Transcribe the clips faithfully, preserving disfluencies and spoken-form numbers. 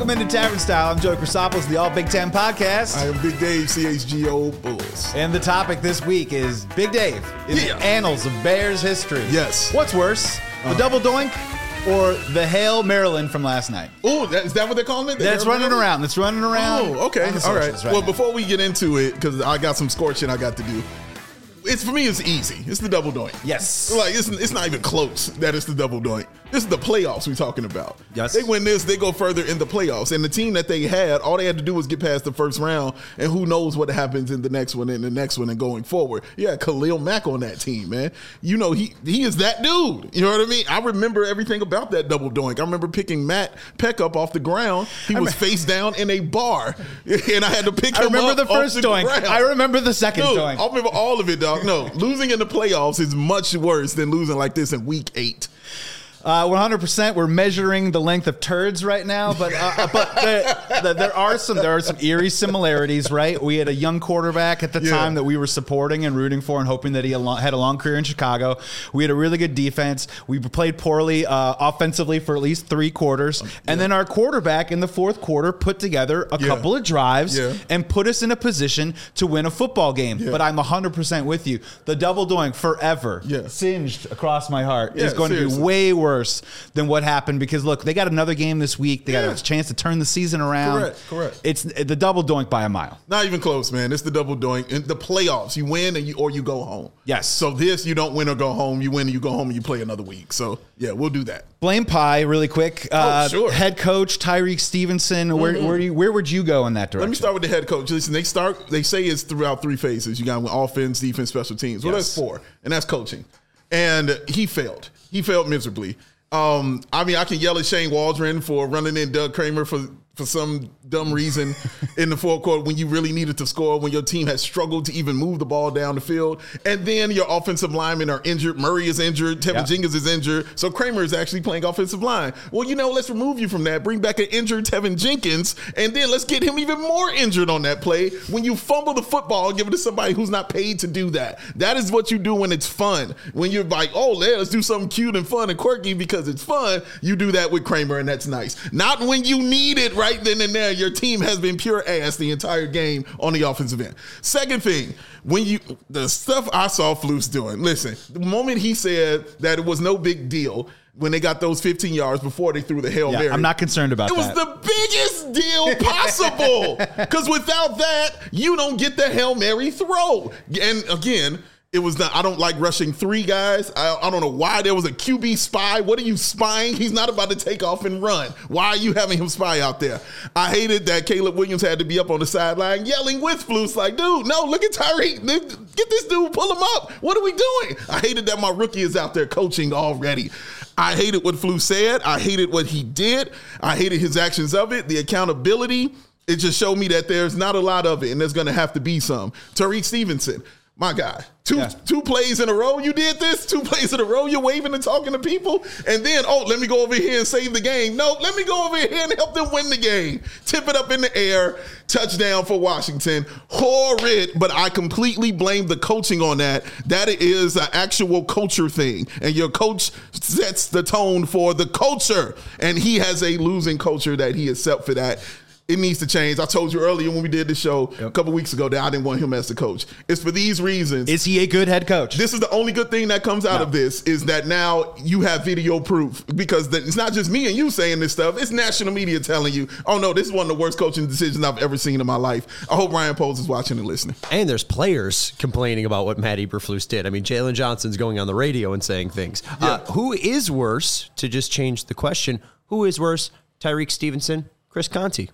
Welcome into Tavern Style. I'm Joey Chrysopoulos, the All Big Ten Podcast. I am Big Dave, C H G O Bulls. And the topic this week is Big Dave in Yeah. the annals of Bears history. Yes. What's worse, the Uh-huh. double doink or the Hail Maryland from last night? Oh, that, is that what they're calling it? The That's Hail running Mary? around. That's running around. Oh, okay. on the All right. socials right well, now. before we get into it, because I got some scorching I got to do. It's for me. It's easy. It's the double doink. Yes. Like it's it's not even close that it's the double doink. This is the playoffs we're talking about. Yes. They win this, they go further in the playoffs. And the team that they had, all they had to do was get past the first round, and who knows what happens in the next one and the next one and going forward. Yeah, Khalil Mack on that team, man. You know, he he is that dude. You know what I mean? I remember everything about that double doink. I remember picking Matt Peck up off the ground. He was face down in a bar, and I had to pick I him remember up the first off the doink. ground. I remember the second Dude, doink. I remember all of it, dog. No, losing in the playoffs is much worse than losing like this in week eight. Uh, one hundred percent. We're measuring the length of turds right now, but uh, but there, there, there are some there are some eerie similarities, right? We had a young quarterback at the Yeah. time that we were supporting and rooting for and hoping that he al- had a long career in Chicago. We had a really good defense. We played poorly uh, offensively for at least three quarters, and then our quarterback in the fourth quarter put together a Yeah. couple of drives Yeah. and put us in a position to win a football game. Yeah. But I'm one hundred percent with you. The double doink forever, Yeah. singed across my heart, Yeah, is going seriously. to be way worse than what happened because look, they got another game this week. They got Yeah. a chance to turn the season around. Correct, correct. It's the double doink by a mile. Not even close, man. It's the double doink. In the playoffs, you win and you or you go home. Yes. So this, you don't win or go home. You win and you go home and you play another week. So yeah, we'll do that. Blame Pie really quick. Uh, sure. Head coach Tyreek Stevenson. Where where, do you, where would you go in that direction? Let me start with the head coach. Listen, they start. They say it's throughout three phases. You got offense, defense, special teams. Well, Yes. that's four, and that's coaching. And he failed. He failed miserably. Um, I mean, I can yell at Shane Waldron for running in Doug Kramer for for some dumb reason in the fourth quarter when you really needed to score, when your team has struggled to even move the ball down the field. And then your offensive linemen are injured. Murray is injured. Tevin Yeah. Jenkins is injured. So Kramer is actually playing offensive line. Well, you know, let's remove you from that. Bring back an injured Tevin Jenkins, and then let's get him even more injured on that play. When you fumble the football and give it to somebody who's not paid to do that. That is what you do when it's fun. When you're like, oh, yeah, let's do something cute and fun and quirky because it's fun. You do that with Kramer, and that's nice. Not when you need it right then and there. Your team has been pure ass the entire game on the offensive end. Second thing, when you the stuff I saw Flus doing. Listen, the moment he said that it was no big deal when they got those fifteen yards before they threw the Hail Yeah, Mary. I'm not concerned about It was that. the biggest deal possible because without that, you don't get the Hail Mary throw. And again, it was not, I don't like rushing three guys. I, I don't know why there was a Q B spy. What are you spying? He's not about to take off and run. Why are you having him spy out there? I hated that Caleb Williams had to be up on the sideline yelling with Flus like, dude, no, look at Tyreek. Get this dude, pull him up. What are we doing? I hated that my rookie is out there coaching already. I hated what Flus said. I hated what he did. I hated his actions of it, the accountability. It just showed me that there's not a lot of it, and there's going to have to be some. Tyreek Stevenson. My God, two Yeah. two plays in a row. You did this two plays in a row. You're waving and talking to people, and then oh, let me go over here and save the game. No, let me go over here and help them win the game. Tip it up in the air, touchdown for Washington. Horrid, but I completely blame the coaching on that. That is an actual culture thing, and your coach sets the tone for the culture, and he has a losing culture that he is set for that. It needs to change. I told you earlier when we did the show Yep. a couple weeks ago that I didn't want him as the coach. It's for these reasons. Is he a good head coach? This is the only good thing that comes out No. of this is that now you have video proof because the, it's not just me and you saying this stuff. It's national media telling you, oh, no, this is one of the worst coaching decisions I've ever seen in my life. I hope Ryan Poles is watching and listening. And there's players complaining about what Matt Eberflus did. I mean, Jalen Johnson's going on the radio and saying things. Yeah. Uh, who is worse, to just change the question, who is worse, Tyreek Stevenson, Chris Conte?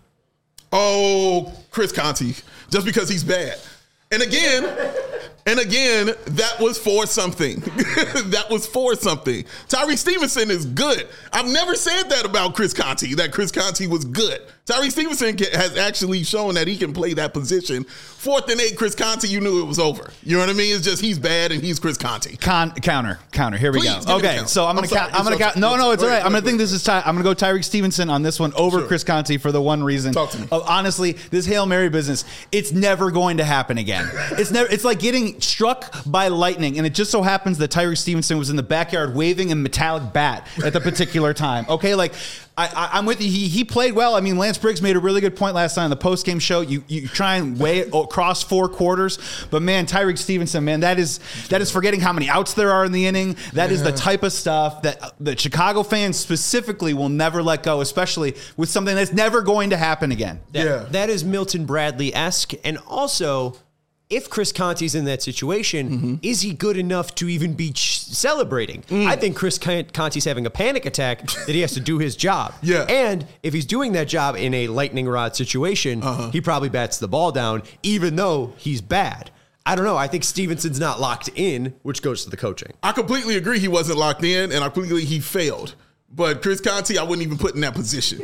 Oh, Chris Conte, just because he's bad. And again, and again, that was for something. That was for something. Tyreek Stevenson is good. I've never said that about Chris Conte, that Chris Conte was good. Tyreek Stevenson can, has actually shown that he can play that position. Fourth and eight, Chris Conte, you knew it was over. You know what I mean? It's just he's bad and he's Chris Conte. Con, counter, counter. Here we Please, go. give me the Okay, count. so I'm gonna I'm sorry. count. I'm gonna It's count. your- No, no, it's Wait, all right. I'm wait, gonna think wait. this is Ty. I'm gonna go Tyreek Stevenson on this one over Sure. Chris Conte for the one reason. Talk to me. Of, honestly, this Hail Mary business, it's never going to happen again. It's never. It's like getting struck by lightning, and it just so happens that Tyreek Stevenson was in the backyard waving a metallic bat at the particular time. Okay, like I, I, I'm with you. He, he played well. I mean, Lance Briggs made a really good point last night on the post-game show. You you try and weigh it across four quarters, but man, Tyreek Stevenson, man, that is that is forgetting how many outs there are in the inning. That yeah. is the type of stuff that the Chicago fans specifically will never let go, especially with something that's never going to happen again. That, yeah, that is Milton Bradley-esque, and also, if Chris Conte's in that situation, mm-hmm. is he good enough to even be ch- celebrating? Mm. I think Chris Conte's having a panic attack that he has to do his job. Yeah. And if he's doing that job in a lightning rod situation, uh-huh. he probably bats the ball down, even though he's bad. I don't know. I think Stevenson's not locked in, which goes to the coaching. I completely agree he wasn't locked in, and I completely he failed. But Chris Conte, I wouldn't even put in that position.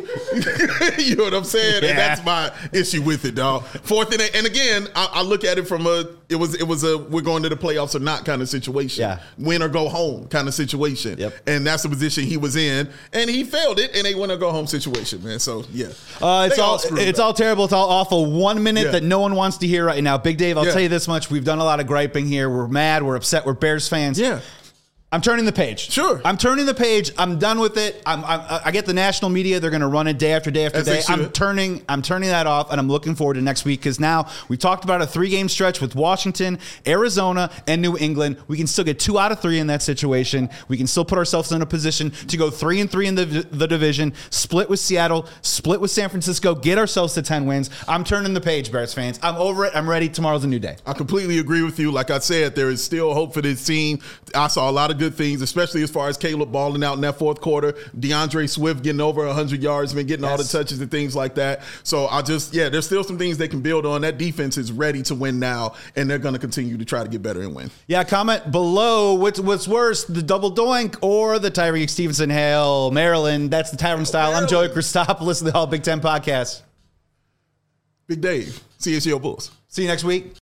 You know what I'm saying? Yeah. And that's my issue with it, dog. Fourth and eight, and again, I, I look at it from a it was it was a we're going to the playoffs or not kind of situation. Yeah. Win or go home kind of situation. Yep. And that's the position he was in, and he failed it, and a win or go home situation, man. So yeah, uh, it's They all, all it's up. all terrible. It's all awful. One minute Yeah. that no one wants to hear right now. Big Dave, I'll Yeah. tell you this much: we've done a lot of griping here. We're mad. We're upset. We're Bears fans. Yeah. I'm turning the page. Sure. I'm turning the page. I'm done with it. I'm, I'm, I get the national media. They're going to run it day after day after As they day. I'm should. turning I'm turning that off, and I'm looking forward to next week because now we talked about a three-game stretch with Washington, Arizona, and New England. We can still get two out of three in that situation. We can still put ourselves in a position to go three and three in the, the division, split with Seattle, split with San Francisco, get ourselves to ten wins. I'm turning the page, Bears fans. I'm over it. I'm ready. Tomorrow's a new day. I completely agree with you. Like I said, there is still hope for this team. I saw a lot of good things, especially as far as Caleb balling out in that fourth quarter, DeAndre Swift getting over one hundred yards, been getting yes. all the touches and things like that. So I just, yeah, there's still some things they can build on. That defense is ready to win now, and they're going to continue to try to get better and win. Yeah, comment below what's what's worse, the double doink or the Tyreek Stevenson Hail Maryland. That's the Tavern Style. I'm Joey Christopoulos of the All Big Ten Podcast. Big Dave, C S U Bulls. See you next week.